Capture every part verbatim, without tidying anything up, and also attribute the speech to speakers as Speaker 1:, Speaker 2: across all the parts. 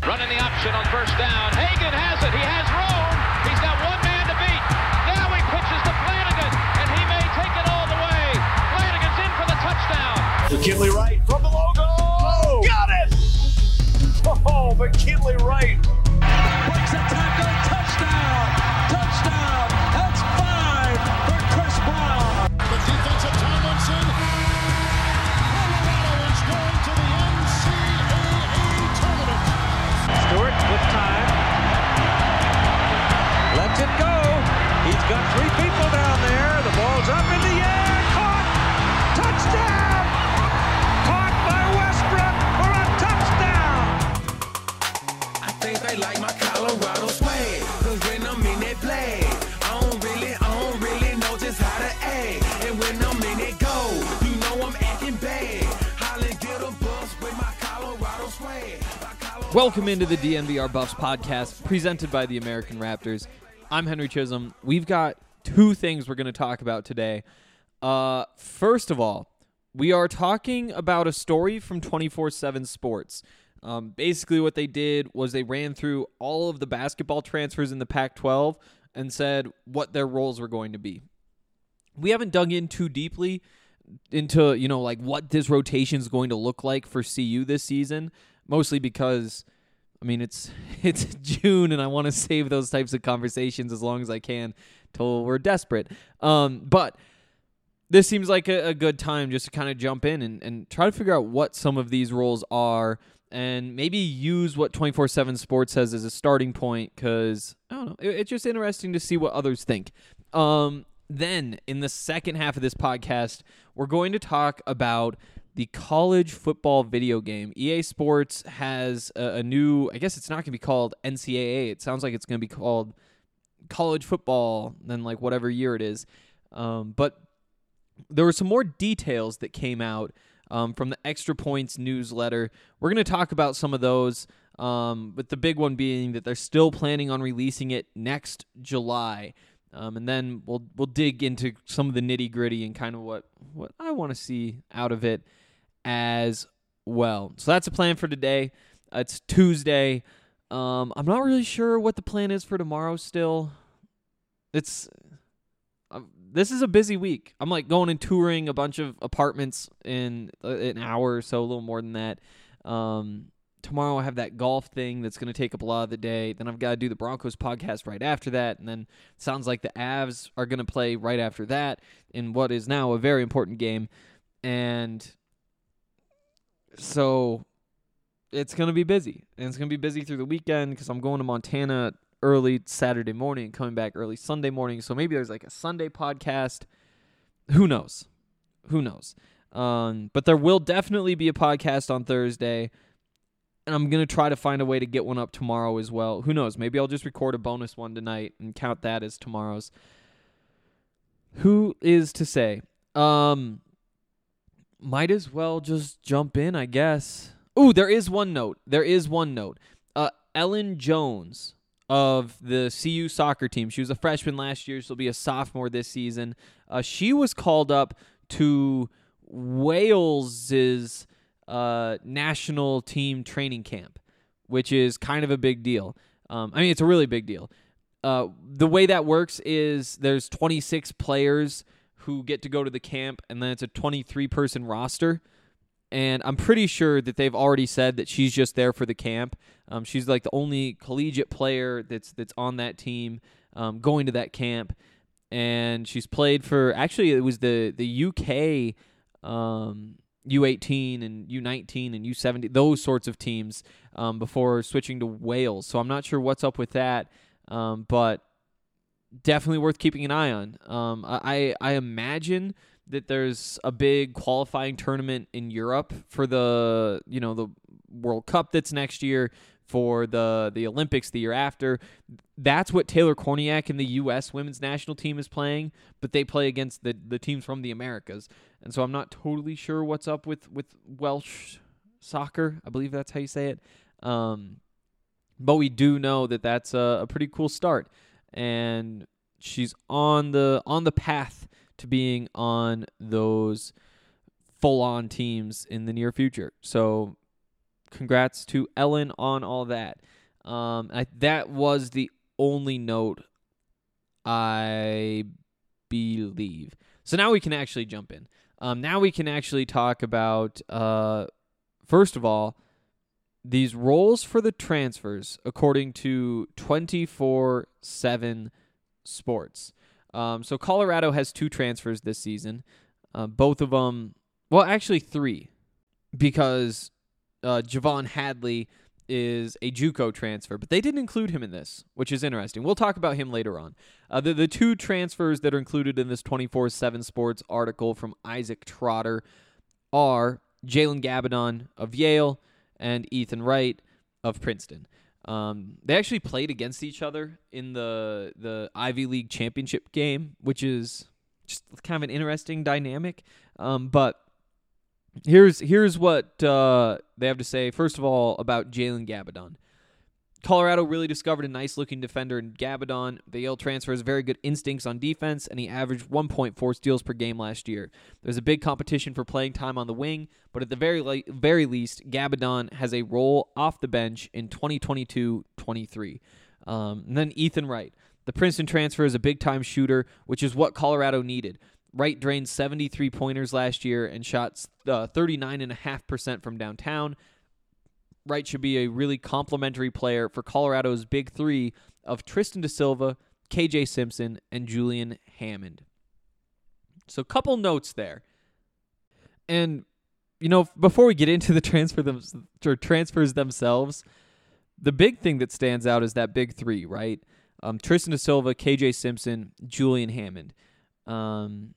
Speaker 1: Running the option on first down. Hagan has it. He has room. He's got one man to beat. Now he pitches to Flanagan, and he may take it all the way. Flanagan's in for the touchdown.
Speaker 2: McKinley Wright from the logo. Oh, got it! Oh, McKinley Wright.
Speaker 3: Breaks a tackle. Touchdown. Touchdown. That's five for Chris Brown.
Speaker 4: The defensive Tomlinson. Colorado is going to the N C double A tournament.
Speaker 3: Stewart with time. Lets it go. He's got three people down there. The ball's up in the air. Caught. Touchdown. Caught by Westbrook for a touchdown.
Speaker 5: I think they like my Colorado swag. Cause when I'm in that play, I don't really, I don't really know just how to act. And when I'm in it go, you know I'm acting bad. Holly get a bus with my Colorado swag. My Colorado
Speaker 6: Welcome into the D N V R Buffs podcast, presented by the American Raptors. I'm Henry Chisholm. We've got two things we're going to talk about today. Uh, first of all, we are talking about a story from twenty-four seven Sports. Um, basically, what they did was they ran through all of the basketball transfers in the Pac twelve and said what their roles were going to be. We haven't dug in too deeply into, you know, like what this rotation is going to look like for C U this season, mostly because, I mean, it's it's June and I want to save those types of conversations as long as I can till we're desperate. Um, but this seems like a, a good time just to kind of jump in and, and try to figure out what some of these roles are and maybe use what twenty-four seven Sports says as a starting point because, I don't know, it, it's just interesting to see what others think. Um, then, in the second half of this podcast, we're going to talk about the college football video game. E A Sports has a, a new, I guess it's not going to be called N C double A. It sounds like it's going to be called college football, then like whatever year it is. Um, but there were some more details that came out um, from the Extra Points newsletter. We're going to talk about some of those, um, but the big one being that they're still planning on releasing it next July. Um, and then we'll we'll dig into some of the nitty gritty and kind of what, what I want to see out of it as well. So that's a plan for today. Uh, it's Tuesday. Um, I'm not really sure what the plan is for tomorrow still. It's uh, this is a busy week. I'm like going and touring a bunch of apartments in uh, an hour or so, a little more than that. Um, tomorrow I have that golf thing that's going to take up a lot of the day. Then I've got to do the Broncos podcast right after that. And then it sounds like the Avs are going to play right after that in what is now a very important game. And so it's going to be busy. And it's going to be busy through the weekend because I'm going to Montana early Saturday morning and coming back early Sunday morning. So maybe there's like a Sunday podcast. Who knows? Who knows? Um, but there will definitely be a podcast on Thursday. And I'm going to try to find a way to get one up tomorrow as well. Who knows? Maybe I'll just record a bonus one tonight and count that as tomorrow's. Who is to say? Um, might as well just jump in, I guess. Ooh, there is one note. There is one note. Uh, Ellen Jones of the C U soccer team. She was a freshman last year. She'll be a sophomore this season. Uh, she was called up to Wales's Uh, national team training camp, which is kind of a big deal. Um, I mean, it's a really big deal. Uh, the way that works is there's twenty-six players who get to go to the camp, and then it's a twenty-three person roster. And I'm pretty sure that they've already said that she's just there for the camp. Um, she's like the only collegiate player that's that's on that team um, going to that camp. And she's played for, actually, it was the, the U K um U eighteen and U nineteen and U seventeen, those sorts of teams um, before switching to Wales. So I'm not sure what's up with that, um, but definitely worth keeping an eye on. Um, I, I imagine that there's a big qualifying tournament in Europe for the, you know, the World Cup that's next year, for the, the Olympics the year after. That's what Taylor Korniak and the U S women's national team is playing, but they play against the, the teams from the Americas. And so I'm not totally sure what's up with, with Welsh soccer. I believe that's how you say it. Um, but we do know that that's a, a pretty cool start. And she's on the on the path to being on those full-on teams in the near future. So congrats to Ellen on all that. Um, I, that was the only note, I believe. So now we can actually jump in. Um, now we can actually talk about, uh, first of all, these roles for the transfers according to twenty-four seven Sports. Um, so Colorado has two transfers this season. Uh, both of them, well, actually three, because uh, Javon Hadley is a JUCO transfer, but they didn't include him in this, which is interesting. We'll talk about him later on. Uh, the, the two transfers that are included in this twenty-four seven Sports article from Isaac Trotter are Jalen Gabadon of Yale and Ethan Wright of Princeton. Um, they actually played against each other in the the Ivy League championship game, which is just kind of an interesting dynamic. Um, but here's here's what uh, they have to say, first of all, about Jalen Gabadon. Colorado really discovered a nice-looking defender in Gabadon. The Yale transfer has very good instincts on defense, and he averaged one point four steals per game last year. There's a big competition for playing time on the wing, but at the very le- very least, Gabadon has a role off the bench in twenty twenty-two twenty-three. Um, and then Ethan Wright. The Princeton transfer is a big-time shooter, which is what Colorado needed. Wright drained seventy-three pointers last year and shot uh, thirty-nine point five percent from downtown. Wright should be a really complimentary player for Colorado's big three of Tristan da Silva, K J Simpson, and Julian Hammond. So a couple notes there. And, you know, before we get into the transfer them, or transfers themselves, the big thing that stands out is that big three, right? Um, Tristan da Silva, K J Simpson, Julian Hammond. Um,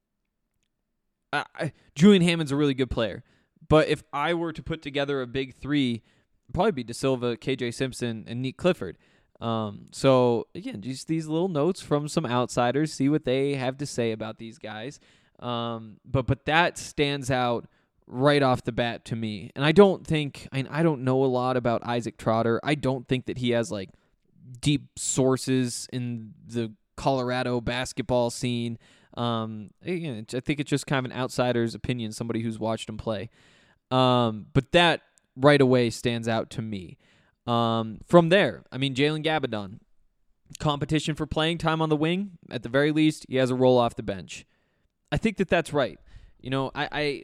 Speaker 6: I, I, Julian Hammond's a really good player. But if I were to put together a big three, it'd probably be Da Silva, K J Simpson, and Nick Clifford. Um, so, again, just these little notes from some outsiders, see what they have to say about these guys. Um, but but that stands out right off the bat to me. And I don't think, I, I don't know a lot about Isaac Trotter. I don't think that he has, like, deep sources in the Colorado basketball scene. Um, again, I think it's just kind of an outsider's opinion, somebody who's watched him play. Um, but that right away stands out to me. Um, from there, I mean, Jalen Gabadon, competition for playing time on the wing. At the very least, he has a role off the bench. I think that that's right. You know, I, I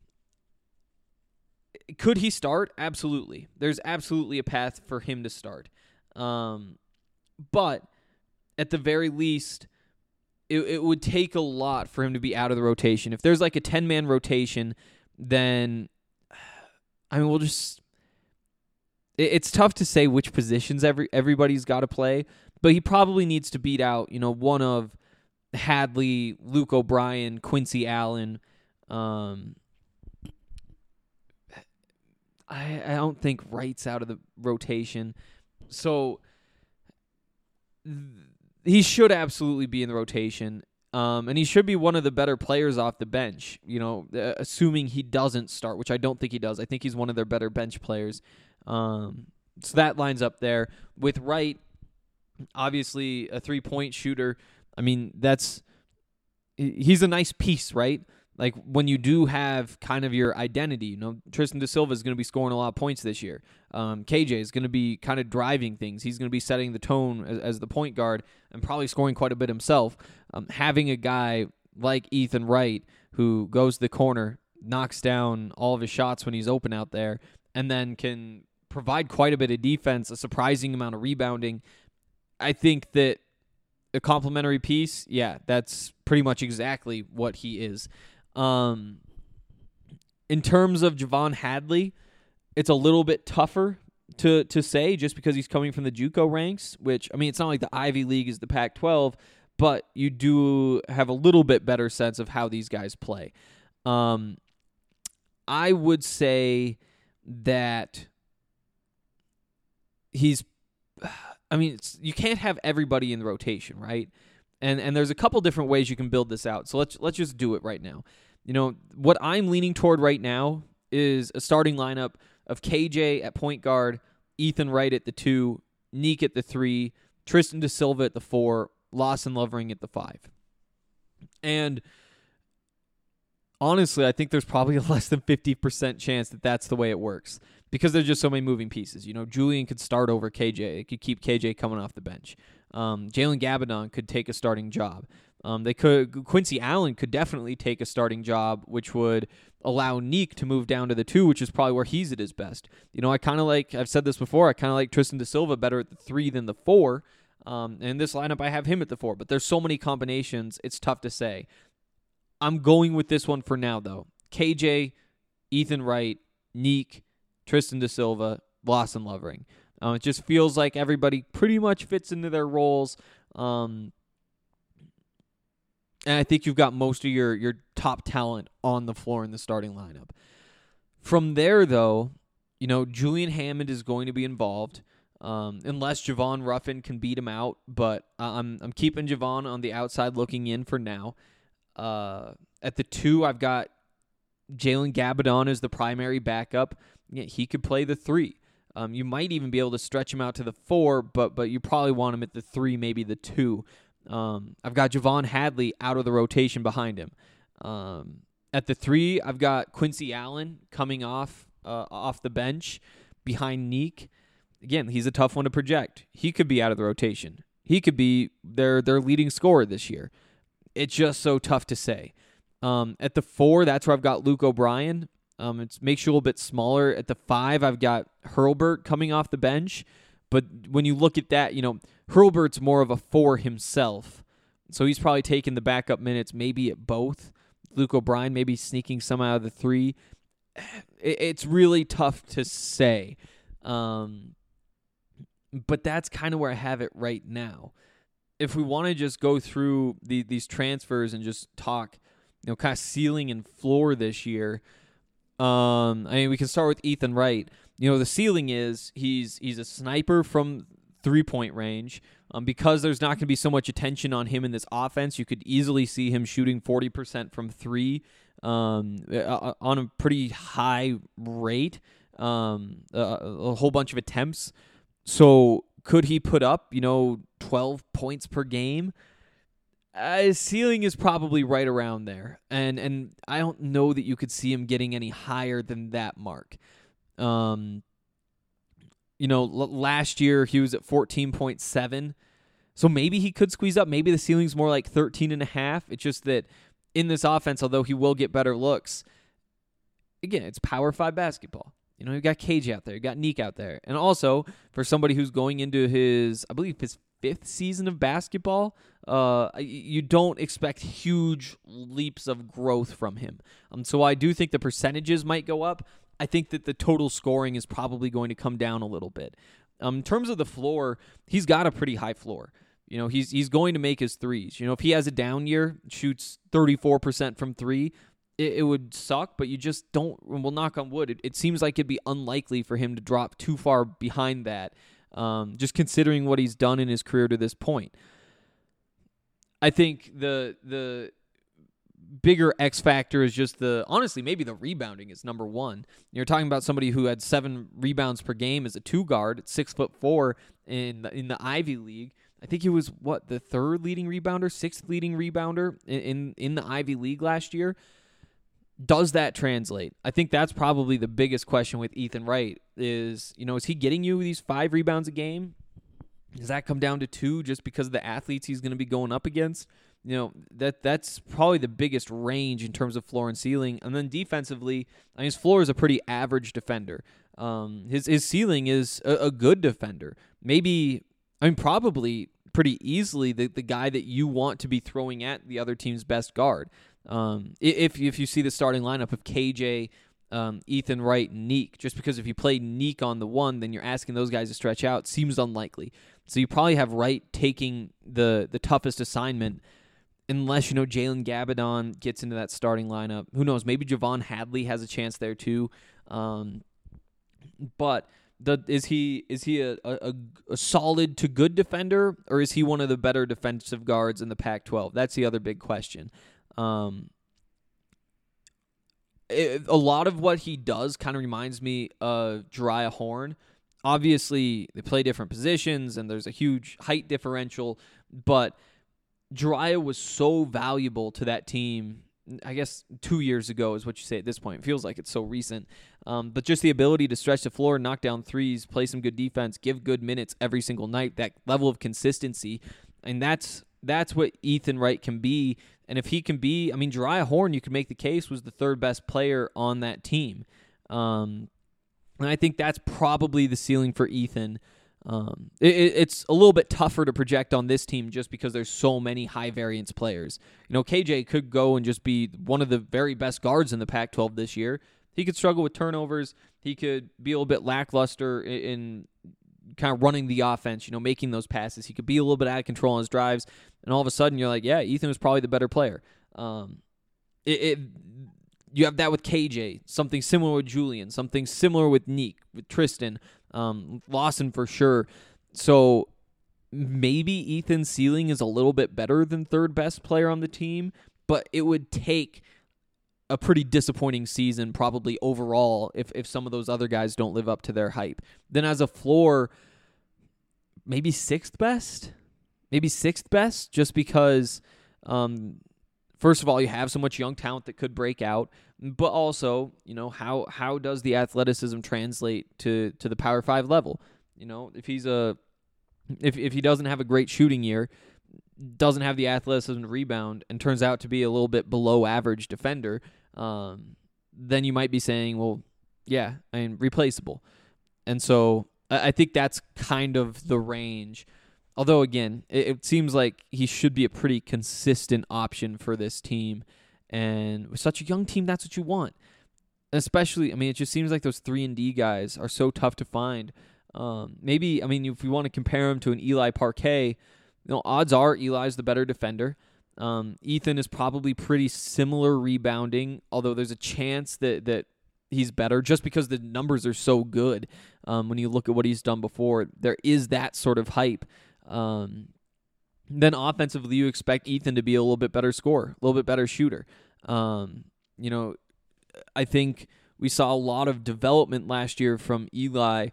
Speaker 6: could he start? Absolutely. There's absolutely a path for him to start. Um, but at the very least, it, it would take a lot for him to be out of the rotation. If there's like a ten-man rotation, then I mean, we'll just. It, it's tough to say which positions every everybody's got to play, but he probably needs to beat out, you know, one of Hadley, Luke O'Brien, Quincy Allen. Um, I I don't think Wright's out of the rotation, so th- he should absolutely be in the rotation. Um, and he should be one of the better players off the bench, you know, uh, assuming he doesn't start, which I don't think he does. I think he's one of their better bench players. Um, so that lines up there. With Wright, obviously a three-point shooter. I mean, that's he's a nice piece, right? Like, when you do have kind of your identity, you know, Tristan da Silva is going to be scoring a lot of points this year. Um, K J is going to be kind of driving things. He's going to be setting the tone as, as the point guard and probably scoring quite a bit himself. Um, having a guy like Ethan Wright who goes to the corner, knocks down all of his shots when he's open out there, and then can provide quite a bit of defense, a surprising amount of rebounding. I think that a complimentary piece, yeah, that's pretty much exactly what he is. Um, in terms of Javon Hadley, it's a little bit tougher to to say just because he's coming from the JUCO ranks, which, I mean, it's not like the Ivy League is the Pac twelve, but you do have a little bit better sense of how these guys play. Um, I would say that he's, I mean, it's, you can't have everybody in the rotation, right? And and there's a couple different ways you can build this out. So let's let's just do it right now. You know, what I'm leaning toward right now is a starting lineup of K J at point guard, Ethan Wright at the two, Neek at the three, Tristan da Silva at the four, Lawson Lovering at the five. And honestly, I think there's probably a less than fifty percent chance that that's the way it works. because there's just so many moving pieces. You know, Julian could start over K J. It could keep K J coming off the bench. Um, Jalen Gabadon could take a starting job. Um, they could Quincy Allen could definitely take a starting job, which would allow Neek to move down to the two, which is probably where he's at his best. You know, I kind of like, I've said this before, I kind of like Tristan Da Silva better at the three than the four. Um, and in this lineup, I have him at the four, but there's so many combinations, it's tough to say. I'm going with this one for now, though. K J, Ethan Wright, Neek, Tristan Da Silva, Lawson Lovering. Uh, it just feels like everybody pretty much fits into their roles. Um, and I think you've got most of your, your top talent on the floor in the starting lineup. From there, though, you know, Julian Hammond is going to be involved, um, unless Javon Ruffin can beat him out. But I'm I'm keeping Javon on the outside looking in for now. Uh, at the two, I've got Jalen Gabadon as the primary backup. Yeah, he could play the three. Um, you might even be able to stretch him out to the four, but but you probably want him at the three, maybe the two. Um, I've got Javon Hadley out of the rotation behind him. Um, at the three, I've got Quincy Allen coming off uh, off the bench behind Neek. Again, he's a tough one to project. He could be out of the rotation. He could be their their leading scorer this year. It's just so tough to say. Um, at the four, that's where I've got Luke O'Brien. Um, it makes you a little bit smaller. At the five, I've got Hurlburt coming off the bench. But when you look at that, you know, Hurlburt's more of a four himself. So he's probably taking the backup minutes maybe at both. Luke O'Brien maybe sneaking some out of the three. It, it's really tough to say. Um, but that's kind of where I have it right now. If we want to just go through the, these transfers and just talk, you know, kind of ceiling and floor this year, um, I mean, we can start with Ethan Wright. You know, the ceiling is he's he's a sniper from three-point range. Um, because there's not going to be so much attention on him in this offense, you could easily see him shooting forty percent from three um, uh, on a pretty high rate, um, a, a whole bunch of attempts. So could he put up, you know, twelve points per game? Uh, his ceiling is probably right around there, and and I don't know that you could see him getting any higher than that mark. Um, you know, l- last year he was at fourteen point seven, so maybe he could squeeze up. Maybe the ceiling's more like thirteen and a half. It's just that in this offense, although he will get better looks, again, it's Power Five basketball. You know, you got K J out there, you got Neek out there, and also for somebody who's going into his, I believe his fifth season of basketball, uh, you don't expect huge leaps of growth from him. Um, so I do think the percentages might go up. I think that the total scoring is probably going to come down a little bit. Um, in terms of the floor, he's got a pretty high floor. You know, he's he's going to make his threes. You know, if he has a down year, shoots thirty-four percent from three, it, it would suck, but you just don't, well, knock on wood, it, it seems like it'd be unlikely for him to drop too far behind that, um, just considering what he's done in his career to this point. I think the the bigger X factor is just the, honestly, maybe the rebounding is number one. You're talking about somebody who had seven rebounds per game as a two guard at six foot four in the, in the Ivy League. I think he was what, the third leading rebounder, sixth leading rebounder in, in in the Ivy League last year. Does that translate? I think that's probably the biggest question with Ethan Wright is, you know, is he getting you these five rebounds a game? Does that come down to two just because of the athletes he's going to be going up against? You know, that that's probably the biggest range in terms of floor and ceiling. And then defensively, I mean, his floor is a pretty average defender. Um, his his ceiling is a, a good defender. Maybe, I mean, probably pretty easily the, the guy that you want to be throwing at the other team's best guard. Um, if if you see the starting lineup of K J, um, Ethan Wright, and Neek, just because if you play Neek on the one, then you're asking those guys to stretch out, seems unlikely. So you probably have Wright taking the the toughest assignment, unless, you know, Jalen Gabadon gets into that starting lineup. Who knows? Maybe Javon Hadley has a chance there too. Um, but the, is he is he a, a, a solid to good defender, or is he one of the better defensive guards in the Pac twelve? That's the other big question. Um, it, a lot of what he does kind of reminds me of Jariah Horn. Obviously, they play different positions, and there's a huge height differential, but Jariah was so valuable to that team I guess two years ago is what you say at this point. It feels like it's so recent. Um, but just the ability to stretch the floor, knock down threes, play some good defense, give good minutes every single night, that level of consistency. And that's that's what Ethan Wright can be. And if he can be, I mean, Jariah Horn, you could make the case, was the third best player on that team. Um, and I think that's probably the ceiling for Ethan. Um, it, it's a little bit tougher to project on this team just because there's so many high variance players. You know, K J could go and just be one of the very best guards in the Pac twelve this year. He could struggle with turnovers. He could be a little bit lackluster in, in kind of running the offense, you know, making those passes. He could be a little bit out of control on his drives, and all of a sudden you're like, yeah, Ethan was probably the better player. Um, it, it you have that with K J, something similar with Julian, something similar with Neek, with Tristan. Um, Lawson for sure. So maybe Ethan's ceiling is a little bit better than third best player on the team, but it would take a pretty disappointing season probably overall if, if some of those other guys don't live up to their hype. Then as a floor, maybe sixth best? Maybe sixth best just because, um, first of all, you have so much young talent that could break out. But also, you know, how how does the athleticism translate to, to the Power Five level? You know, if he's a if if he doesn't have a great shooting year, doesn't have the athleticism to rebound, and turns out to be a little bit below average defender, um, then you might be saying, well, yeah, I mean, replaceable. And so I, I think that's kind of the range. Although, again, it, it seems like he should be a pretty consistent option for this team. And with such a young team, that's what you want. Especially, I mean, it just seems like those three and D guys are so tough to find. Um, maybe, I mean, if we want to compare him to an Eli Parquet, you know, odds are Eli's the better defender. Um, Ethan is probably pretty similar rebounding, although there's a chance that, that he's better just because the numbers are so good. Um, when you look at what he's done before, there is that sort of hype. Um, Then offensively, you expect Ethan to be a little bit better scorer, a little bit better shooter. Um, you know, I think we saw a lot of development last year from Eli,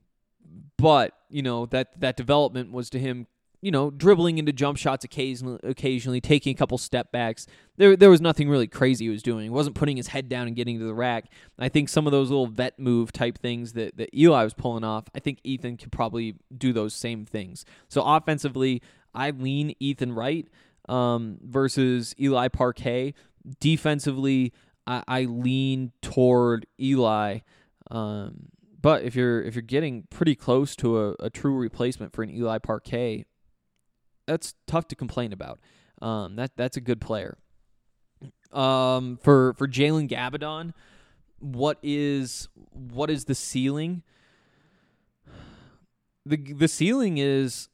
Speaker 6: but, you know, that, that development was to him, you know, dribbling into jump shots occasionally, occasionally taking a couple step backs. There there was nothing really crazy he was doing. He wasn't putting his head down and getting to the rack. I think some of those little vet move type things that, that Eli was pulling off, I think Ethan could probably do those same things. So offensively, I lean Ethan Wright um, versus Eli Parquet. Defensively, I, I lean toward Eli. Um, but if you're if you're getting pretty close to a, a true replacement for an Eli Parquet, that's tough to complain about. Um, that that's a good player. Um, for for Jalen Gabadon, what is what is the ceiling? The the ceiling is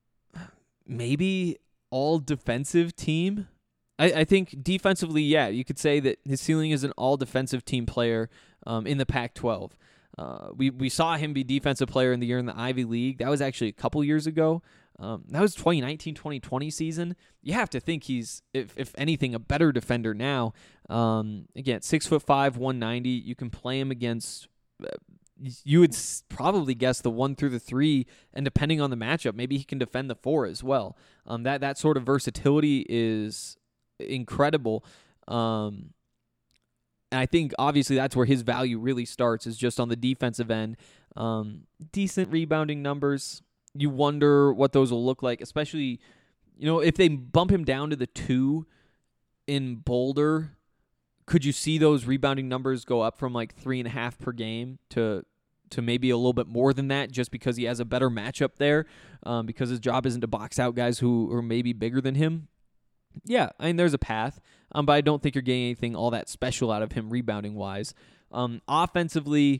Speaker 6: maybe all defensive team. I, I think defensively, yeah, you could say that his ceiling is an all defensive team player um, in the Pac twelve. Uh, we we saw him be defensive player in the year in the Ivy League. That was actually a couple years ago. Um, that was twenty nineteen twenty twenty season. You have to think he's, if if anything, a better defender now. Um, again, six foot five, one ninety. You can play him against. Uh, you would probably guess the one through the three, and depending on the matchup, maybe he can defend the four as well. Um, that that sort of versatility is incredible. Um, and I think obviously that's where his value really starts, is just on the defensive end. Um, decent rebounding numbers. You wonder what those will look like, especially, you know, if they bump him down to the two in Boulder. Could you see those rebounding numbers go up from like three and a half per game to to maybe a little bit more than that, just because he has a better matchup there, um, because his job isn't to box out guys who are maybe bigger than him? Yeah, I mean, there's a path, um, but I don't think you're getting anything all that special out of him rebounding-wise. Um, offensively,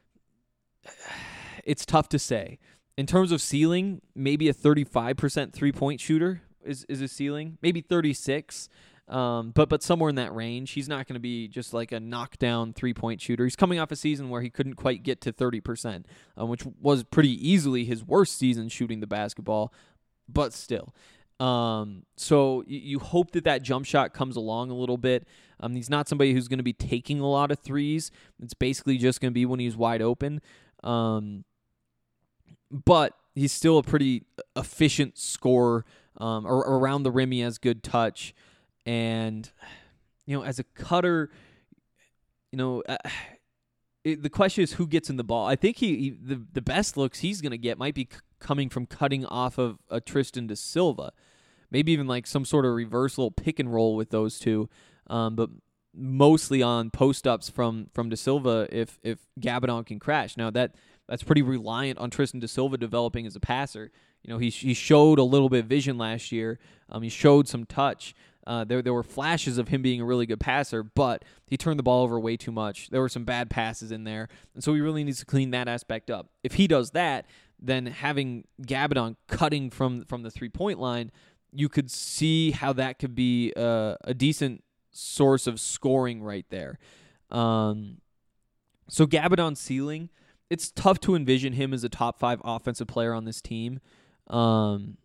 Speaker 6: it's tough to say. In terms of ceiling, maybe a thirty-five percent three-point shooter is, is a ceiling, maybe thirty-six. Um, but but somewhere in that range. He's not going to be just like a knockdown three-point shooter. He's coming off a season where he couldn't quite get to thirty percent, um, which was pretty easily his worst season shooting the basketball, but still. Um, so you, you hope that that jump shot comes along a little bit. Um, he's not somebody who's going to be taking a lot of threes. It's basically just going to be when he's wide open. Um, but he's still a pretty efficient scorer. Um, or, or around the rim, he has good touch. And you know, as a cutter, you know, uh, it, the question is who gets in the ball. I think he, he the the best looks he's going to get might be c- coming from cutting off of a Tristan Da Silva, maybe even like some sort of reversal pick and roll with those two, um, but mostly on post ups from from Da Silva if if Gabidon can crash. Now that that's pretty reliant on Tristan Da Silva developing as a passer. You know, he he showed a little bit of vision last year. Um, he showed some touch. Uh, there there were flashes of him being a really good passer, but he turned the ball over way too much. There were some bad passes in there, and so he really needs to clean that aspect up. If he does that, then having Gabidon cutting from from the three-point line, you could see how that could be uh, a decent source of scoring right there. Um, so Gabidon's ceiling, it's tough to envision him as a top five offensive player on this team. Um,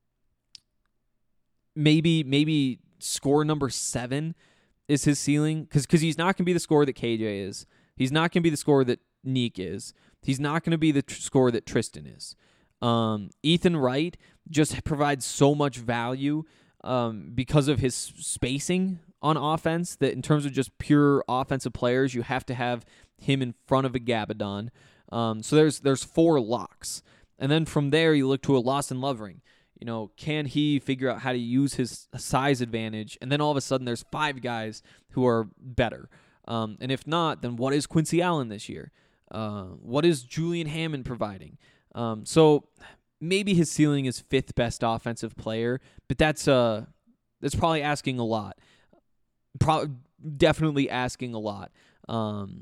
Speaker 6: maybe maybe score number seven is his ceiling, because because he's not going to be the scorer that K J is. He's not going to be the scorer that Neek is. He's not going to be the tr- scorer that Tristan is. Um, Ethan Wright just provides so much value um, because of his spacing on offense that in terms of just pure offensive players, you have to have him in front of a Gabidon. Um, so there's there's four locks. And then from there, you look to a Lawson Lovering. You know, can he figure out how to use his size advantage? And then all of a sudden, there's five guys who are better. Um, and if not, then what is Quincy Allen this year? Uh, what is Julian Hammond providing? Um, so maybe his ceiling is fifth best offensive player, but that's uh that's probably asking a lot. Pro- definitely asking a lot. Um,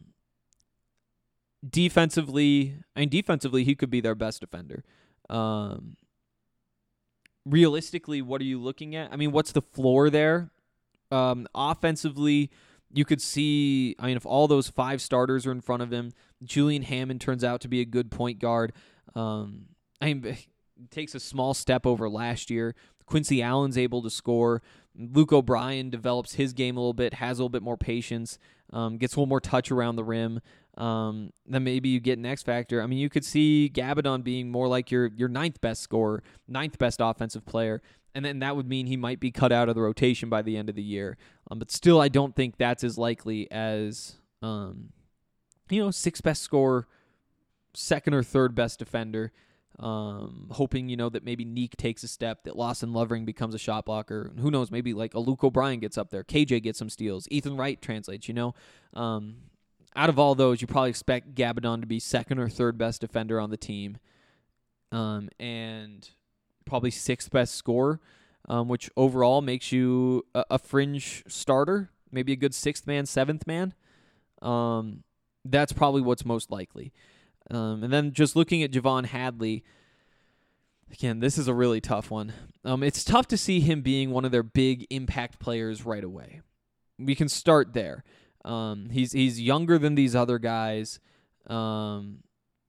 Speaker 6: defensively, I mean, defensively, he could be their best defender. Um, realistically, what are you looking at? I mean, what's the floor there? Um, offensively, you could see, I mean, if all those five starters are in front of him, Julian Hammond turns out to be a good point guard. Um, I mean, it takes a small step over last year. Quincy Allen's able to score. Luke O'Brien develops his game a little bit, has a little bit more patience, um, gets a little more touch around the rim. Um, then maybe you get an X factor. I mean, you could see Gabidon being more like your your ninth best scorer, ninth best offensive player, and then that would mean he might be cut out of the rotation by the end of the year. Um, but still, I don't think that's as likely as um, you know, sixth best scorer, second or third best defender. Um, hoping, you know, that maybe Neek takes a step, that Lawson Lovering becomes a shot blocker. Who knows? Maybe like a Luke O'Brien gets up there. K J gets some steals. Ethan Wright translates, you know. Um, out of all those, you probably expect Gabidon to be second or third best defender on the team. Um, and probably sixth best scorer, um, which overall makes you a, a fringe starter, maybe a good sixth man, seventh man. Um, that's probably what's most likely. Um, and then just looking at Javon Hadley, again, this is a really tough one. Um, it's tough to see him being one of their big impact players right away. We can start there. Um, he's he's younger than these other guys. Um,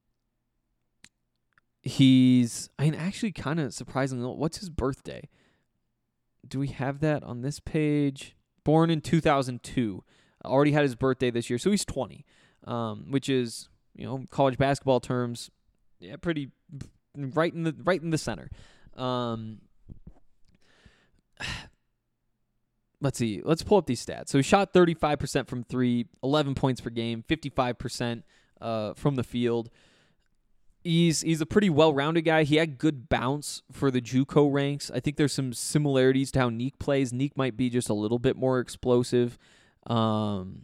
Speaker 6: he's, I mean, actually kind of surprisingly, what's his birthday? Do we have that on this page? Born in two thousand two. Already had his birthday this year, so he's twenty, um, which is, you know, college basketball terms, yeah, pretty right in the right in the center. Um, let's see. Let's pull up these stats. So he shot thirty-five percent from three, eleven points per game, fifty-five percent uh, from the field. He's he's a pretty well-rounded guy. He had good bounce for the JUCO ranks. I think there's some similarities to how Neek plays. Neek might be just a little bit more explosive. Um,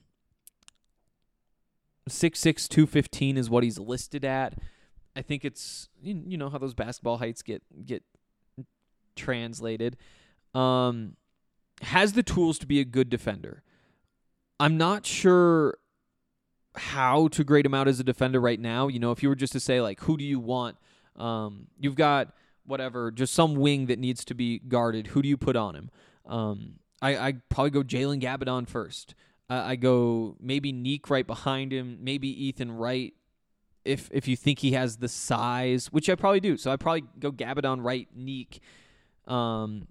Speaker 6: six six, two fifteen is what he's listed at. I think it's, you know how those basketball heights get get translated. Um, has the tools to be a good defender. I'm not sure how to grade him out as a defender right now. You know, if you were just to say, like, who do you want? Um, you've got, whatever, just some wing that needs to be guarded. Who do you put on him? Um, I, I'd probably go Jalen Gabidon first. Uh, I go maybe Neek right behind him, maybe Ethan Wright if if you think he has the size, which I probably do. So I'd probably go Gabidon, Wright, Neek. Um,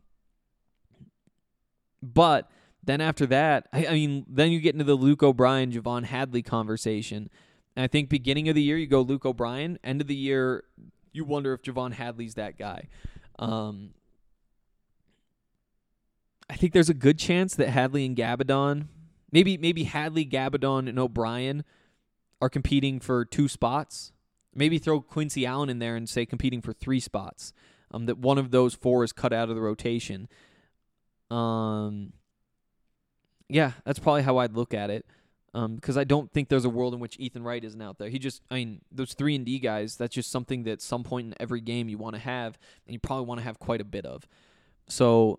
Speaker 6: but then after that, I, I mean, then you get into the Luke O'Brien, Javon Hadley conversation. And I think beginning of the year, you go Luke O'Brien. End of the year, you wonder if Javon Hadley's that guy. Um, I think there's a good chance that Hadley and Gabadon, maybe maybe Hadley, Gabadon, and O'Brien are competing for two spots. Maybe throw Quincy Allen in there and say competing for three spots. Um, that one of those four is cut out of the rotation. Um, yeah, that's probably how I'd look at it. Um, because I don't think there's a world in which Ethan Wright isn't out there. He just, I mean, those three and D guys, that's just something that at some point in every game you want to have, and you probably want to have quite a bit of. So,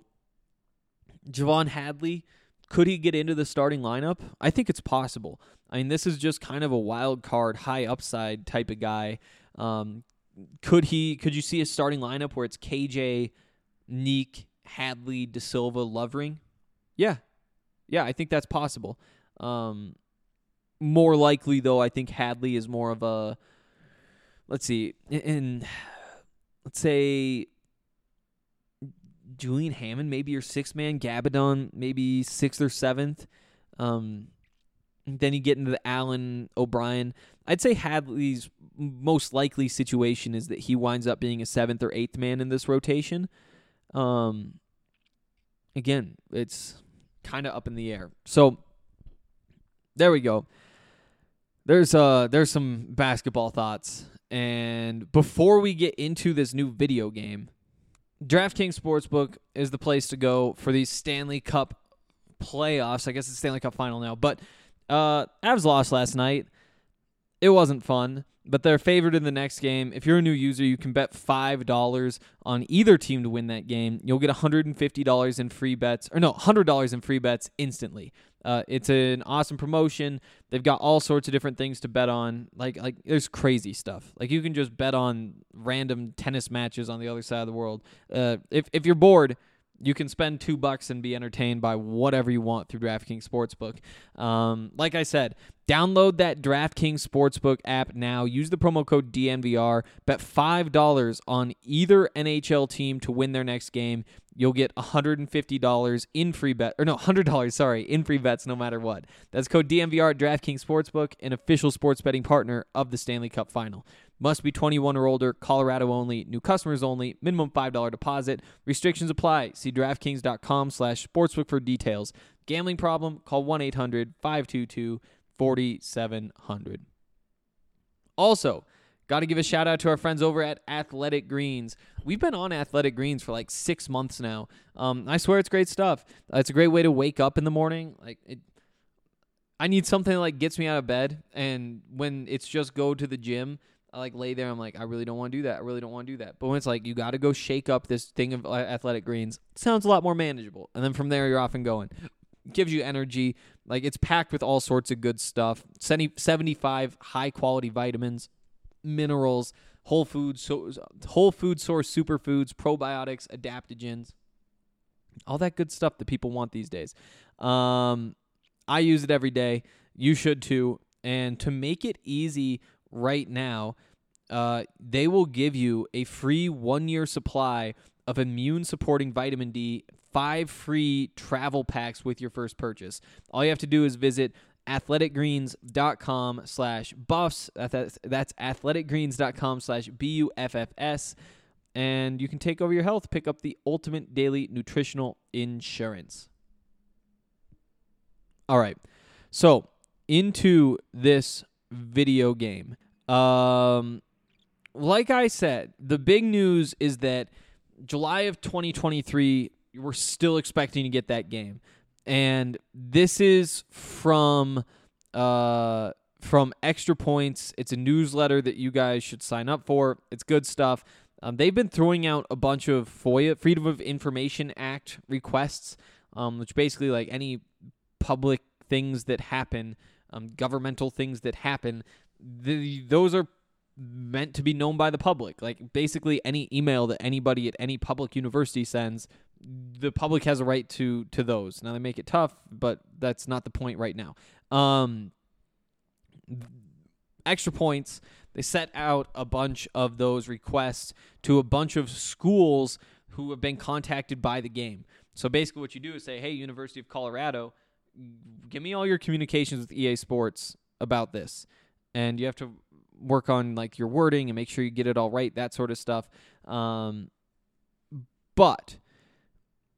Speaker 6: Javon Hadley, could he get into the starting lineup? I think it's possible. I mean, this is just kind of a wild card, high upside type of guy. Um, could he? Could you see a starting lineup where it's K J, Neek, Hadley, De Silva, Lovering? Yeah, yeah, I think that's possible. Um, more likely, though, I think Hadley is more of a, let's see, in, in let's say Julian Hammond, maybe your sixth man, Gabadon, maybe sixth or seventh. Um, then you get into the Allen, O'Brien. I'd say Hadley's most likely situation is that he winds up being a seventh or eighth man in this rotation. Um, again, it's kind of up in the air. So, there we go. There's uh there's some basketball thoughts. And before we get into this new video game, DraftKings Sportsbook is the place to go for these Stanley Cup playoffs. I guess it's Stanley Cup final now. But uh Avs lost last night. It wasn't fun, but they're favored in the next game. If you're a new user, you can bet five dollars on either team to win that game. You'll get one hundred fifty dollars in free bets, or no, one hundred dollars in free bets instantly. Uh, it's an awesome promotion. They've got all sorts of different things to bet on. Like, like there's crazy stuff. Like, you can just bet on random tennis matches on the other side of the world. Uh, if if you're bored, you can spend two bucks and be entertained by whatever you want through DraftKings Sportsbook. Um, like I said, download that DraftKings Sportsbook app now. Use the promo code D N V R. Bet five dollars on either N H L team to win their next game. You'll get one hundred fifty dollars in free bet, or no, one hundred dollars, sorry, in free bets no matter what. That's code D N V R at DraftKings Sportsbook, an official sports betting partner of the Stanley Cup Final. Must be twenty-one or older, Colorado only, new customers only, minimum five dollars deposit. Restrictions apply. See DraftKings.com slash sportsbook for details. Gambling problem? Call one eight hundred five two two four seven zero zero. Also, got to give a shout out to our friends over at Athletic Greens. We've been on Athletic Greens for like six months now. Um, I swear it's great stuff. Uh, it's a great way to wake up in the morning. Like it, I need something that like gets me out of bed, and when it's just go to the gym, I like lay there. I'm like, I really don't want to do that. I really don't want to do that. But when it's like you got to go shake up this thing of Athletic Greens, it sounds a lot more manageable. And then from there, you're off and going. Gives you energy. Like it's packed with all sorts of good stuff. seventy-five high quality vitamins, minerals, whole food, so whole food source superfoods, probiotics, adaptogens, all that good stuff that people want these days. Um, I use it every day. You should too. And to make it easy right now, uh, they will give you a free one-year supply of immune-supporting vitamin D, five free travel packs with your first purchase. All you have to do is visit athleticgreens.com slash buffs. That's, that's athleticgreens.com slash B U F F S. And you can take over your health, pick up the ultimate daily nutritional insurance. All right. So, into this video game. Um, like I said, the big news is that July of twenty twenty-three, we're still expecting to get that game. And this is from uh, from Extra Points. It's a newsletter that you guys should sign up for. It's good stuff. Um, they've been throwing out a bunch of FOIA, Freedom of Information Act requests, um, which basically like any public things that happen, um, governmental things that happen, the, those are meant to be known by the public. Like basically any email that anybody at any public university sends, the public has a right to to those. Now they make it tough, but that's not the point right now. Um, Extra Points, they set out a bunch of those requests to a bunch of schools who have been contacted by the game. So basically what you do is say, hey, University of Colorado, give me all your communications with E A Sports about this. And you have to work on like your wording and make sure you get it all right, that sort of stuff. Um, but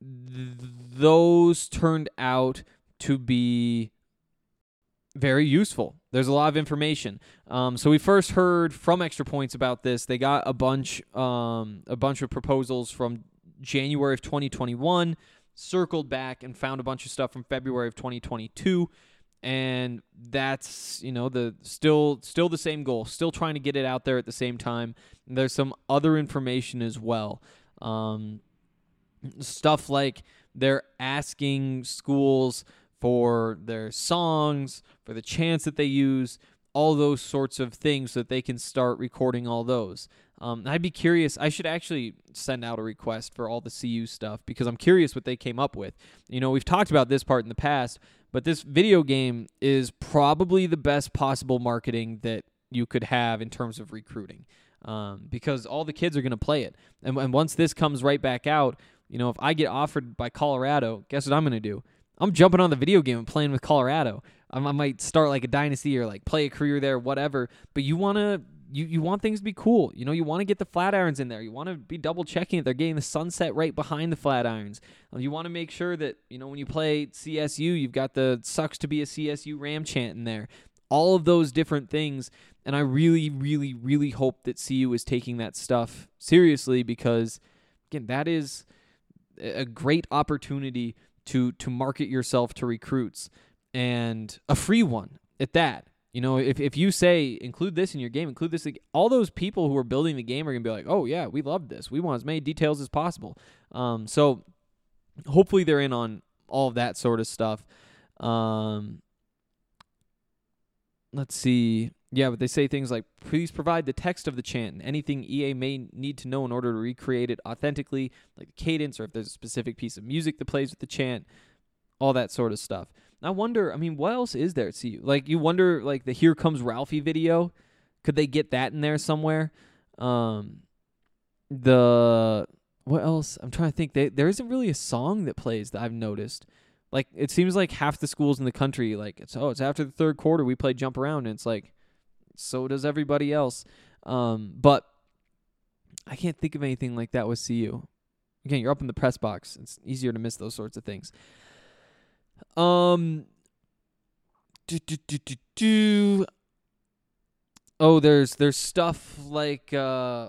Speaker 6: th- those turned out to be very useful. There's a lot of information. Um, so we first heard from Extra Points about this. They got a bunch, um, a bunch of proposals from January of twenty twenty-one, circled back and found a bunch of stuff from February of twenty twenty-two, and that's, you know, the still still the same goal. Still trying to get it out there at the same time. And there's some other information as well. Um, stuff like they're asking schools for their songs, for the chants that they use, all those sorts of things so that they can start recording all those. Um, I'd be curious. I should actually send out a request for all the C U stuff because I'm curious what they came up with. You know, we've talked about this part in the past, but this video game is probably the best possible marketing that you could have in terms of recruiting, um, because all the kids are going to play it. And, and once this comes right back out, you know, if I get offered by Colorado, guess what I'm going to do? I'm jumping on the video game and playing with Colorado. I, I might start like a dynasty or like play a career there, whatever. But you want to, you, you want things to be cool. You know, you want to get the Flatirons in there. You want to be double checking it. They're getting the sunset right behind the Flatirons. You want to make sure that, you know, when you play C S U, you've got the sucks to be a C S U Ram chant in there. All of those different things. And I really, really, really hope that C U is taking that stuff seriously because, again, that is a great opportunity to to market yourself to recruits, and a free one at that. You know, if if you say include this in your game, include this, all those people who are building the game are gonna be like, oh yeah, we love this. We want as many details as possible. Um, so hopefully they're in on all of that sort of stuff. Um, let's see. Yeah, but they say things like, please provide the text of the chant and anything E A may need to know in order to recreate it authentically, like the cadence or if there's a specific piece of music that plays with the chant, all that sort of stuff. And I wonder, I mean, what else is there at C U? Like, you wonder, like, the Here Comes Ralphie video, could they get that in there somewhere? Um, the, what else? I'm trying to think. They, there isn't really a song that plays that I've noticed. Like, it seems like half the schools in the country, like, it's, oh, it's after the third quarter, we play Jump Around, and it's like, so does everybody else. Um, but I can't think of anything like that with C U. Again, you're up in the press box. It's easier to miss those sorts of things. Um, do, do, do, do, do. Oh, there's there's stuff like, uh,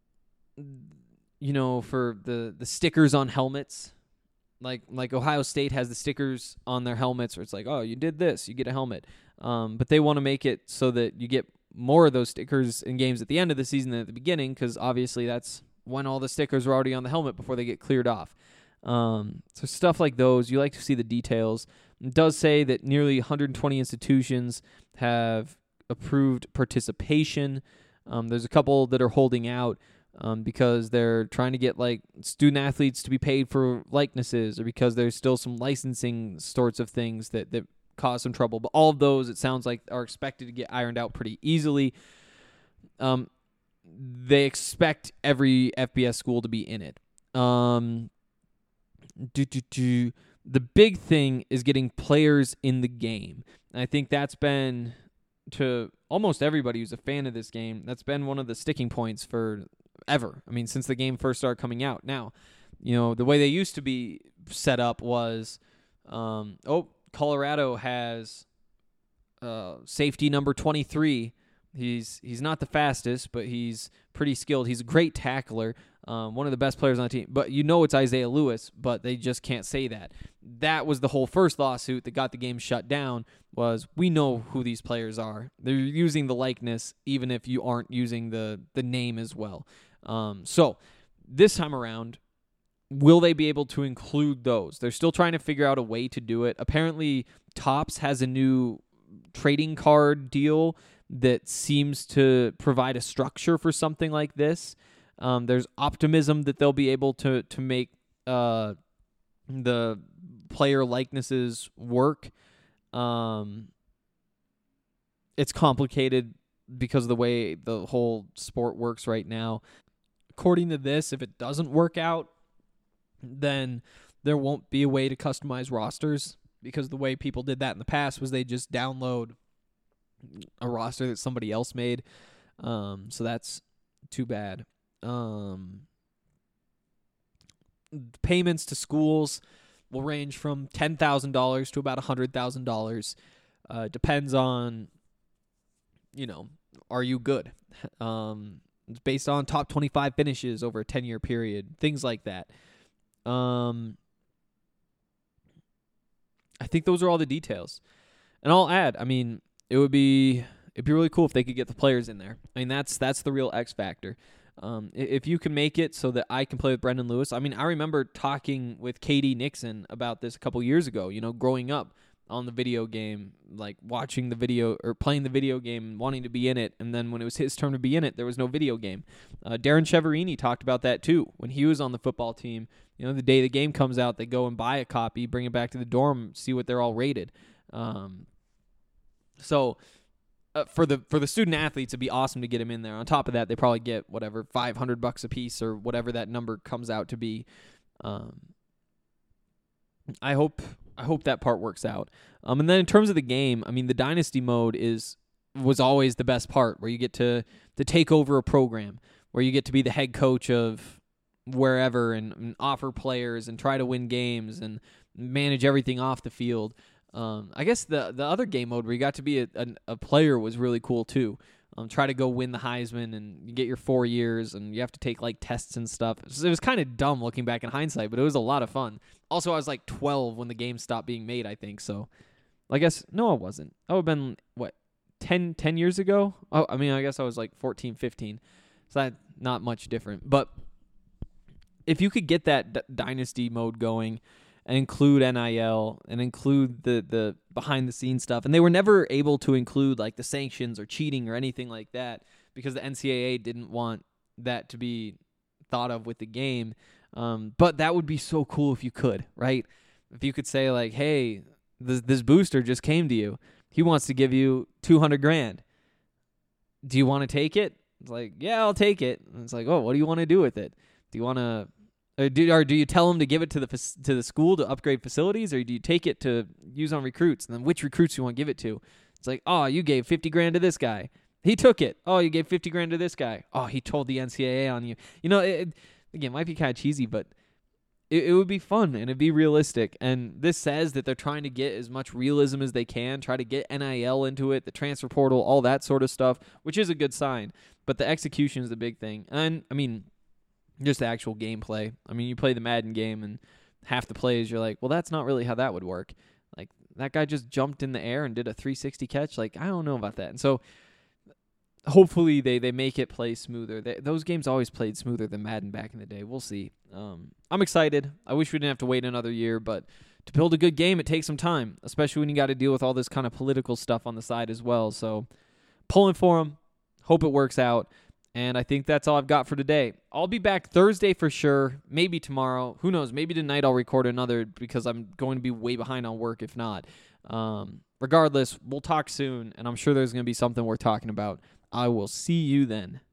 Speaker 6: you know, for the, the stickers on helmets. Like like Ohio State has the stickers on their helmets where it's like, oh, you did this, you get a helmet. Um, but they want to make it so that you get more of those stickers in games at the end of the season than at the beginning, because obviously that's when all the stickers are already on the helmet before they get cleared off. Um, so stuff like those, you like to see the details. It does say that nearly one hundred twenty institutions have approved participation. Um, there's a couple that are holding out um, because they're trying to get like student athletes to be paid for likenesses, or because there's still some licensing sorts of things that that cause some trouble. But all of those, it sounds like, are expected to get ironed out pretty easily. Um, they expect every F B S school to be in it. Um, do, do, do. The big thing is getting players in the game. And I think that's been, to almost everybody who's a fan of this game, that's been one of the sticking points for ever. I mean, since the game first started coming out. Now, you know, the way they used to be set up was, um, oh, Colorado has uh, safety number twenty-three. He's he's not the fastest, but he's pretty skilled. He's a great tackler, um, one of the best players on the team. But you know it's Isaiah Lewis, but they just can't say that. That was the whole first lawsuit that got the game shut down, was we know who these players are. They're using the likeness, even if you aren't using the, the name as well. Um, so this time around, will they be able to include those? They're still trying to figure out a way to do it. Apparently, Topps has a new trading card deal that seems to provide a structure for something like this. Um, there's optimism that they'll be able to to make uh, the player likenesses work. Um, it's complicated because of the way the whole sport works right now. According to this, if it doesn't work out, then there won't be a way to customize rosters, because the way people did that in the past was they just download a roster that somebody else made. Um, so that's too bad. Um, payments to schools will range from ten thousand dollars to about one hundred thousand dollars. Uh, depends on, you know, are you good? Um, it's based on top twenty-five finishes over a ten-year period, things like that. Um, I think those are all the details. And I'll add, I mean, it would be it'd be really cool if they could get the players in there. I mean, that's that's the real X factor. Um, if you can make it so that I can play with Brendan Lewis. I mean, I remember talking with K D Nixon about this a couple years ago, you know, growing up on the video game, like watching the video or playing the video game and wanting to be in it. And then when it was his turn to be in it, there was no video game. Uh, Darren Cheverini talked about that too. When he was on the football team, you know, the day the game comes out, they go and buy a copy, bring it back to the dorm, see what they're all rated. Um, so... Uh, for the for the student athletes, it'd be awesome to get them in there. On top of that, they probably get whatever five hundred bucks a piece or whatever that number comes out to be. Um, I hope I hope that part works out. Um, and then in terms of the game, I mean, the dynasty mode is was always the best part, where you get to to take over a program, where you get to be the head coach of wherever and, and offer players and try to win games and manage everything off the field. Um, I guess the the other game mode where you got to be a, a, a player was really cool too. Um, try to go win the Heisman and you get your four years and you have to take like tests and stuff. It was, was kind of dumb looking back in hindsight, but it was a lot of fun. Also, I was like twelve when the game stopped being made, I think. So I guess, no, I wasn't. I would have been, what, ten, ten years ago? Oh, I mean, I guess I was like fourteen, fifteen. So that not much different. But if you could get that d- dynasty mode going, and include N I L and include the, the behind-the-scenes stuff. And they were never able to include like the sanctions or cheating or anything like that because the N C double A didn't want that to be thought of with the game. Um, but that would be so cool if you could, right? If you could say like, hey, this, this booster just came to you. He wants to give you two hundred grand. Do you want to take it? It's like, yeah, I'll take it. And it's like, oh, what do you want to do with it? Do you want to... Or do, or do you tell them to give it to the to the school to upgrade facilities, or do you take it to use on recruits? And then which recruits do you want to give it to? It's like, oh, you gave fifty grand to this guy. He took it. Oh, you gave fifty grand to this guy. Oh, he told the N C double A on you. You know, it, again, it might be kind of cheesy, but it, it would be fun and it'd be realistic. And this says that they're trying to get as much realism as they can, try to get N I L into it, the transfer portal, all that sort of stuff, which is a good sign. But the execution is the big thing. And, I mean... just the actual gameplay. I mean, you play the Madden game, and half the plays, you're like, well, that's not really how that would work. Like, that guy just jumped in the air and did a three sixty catch. Like, I don't know about that. And so, hopefully, they, they make it play smoother. They, those games always played smoother than Madden back in the day. We'll see. Um, I'm excited. I wish we didn't have to wait another year, but to build a good game, it takes some time, especially when you got to deal with all this kind of political stuff on the side as well. So, pulling for them. Hope it works out. And I think that's all I've got for today. I'll be back Thursday for sure, maybe tomorrow. Who knows? Maybe tonight I'll record another because I'm going to be way behind on work if not. Um, regardless, we'll talk soon, and I'm sure there's going to be something worth talking about. I will see you then.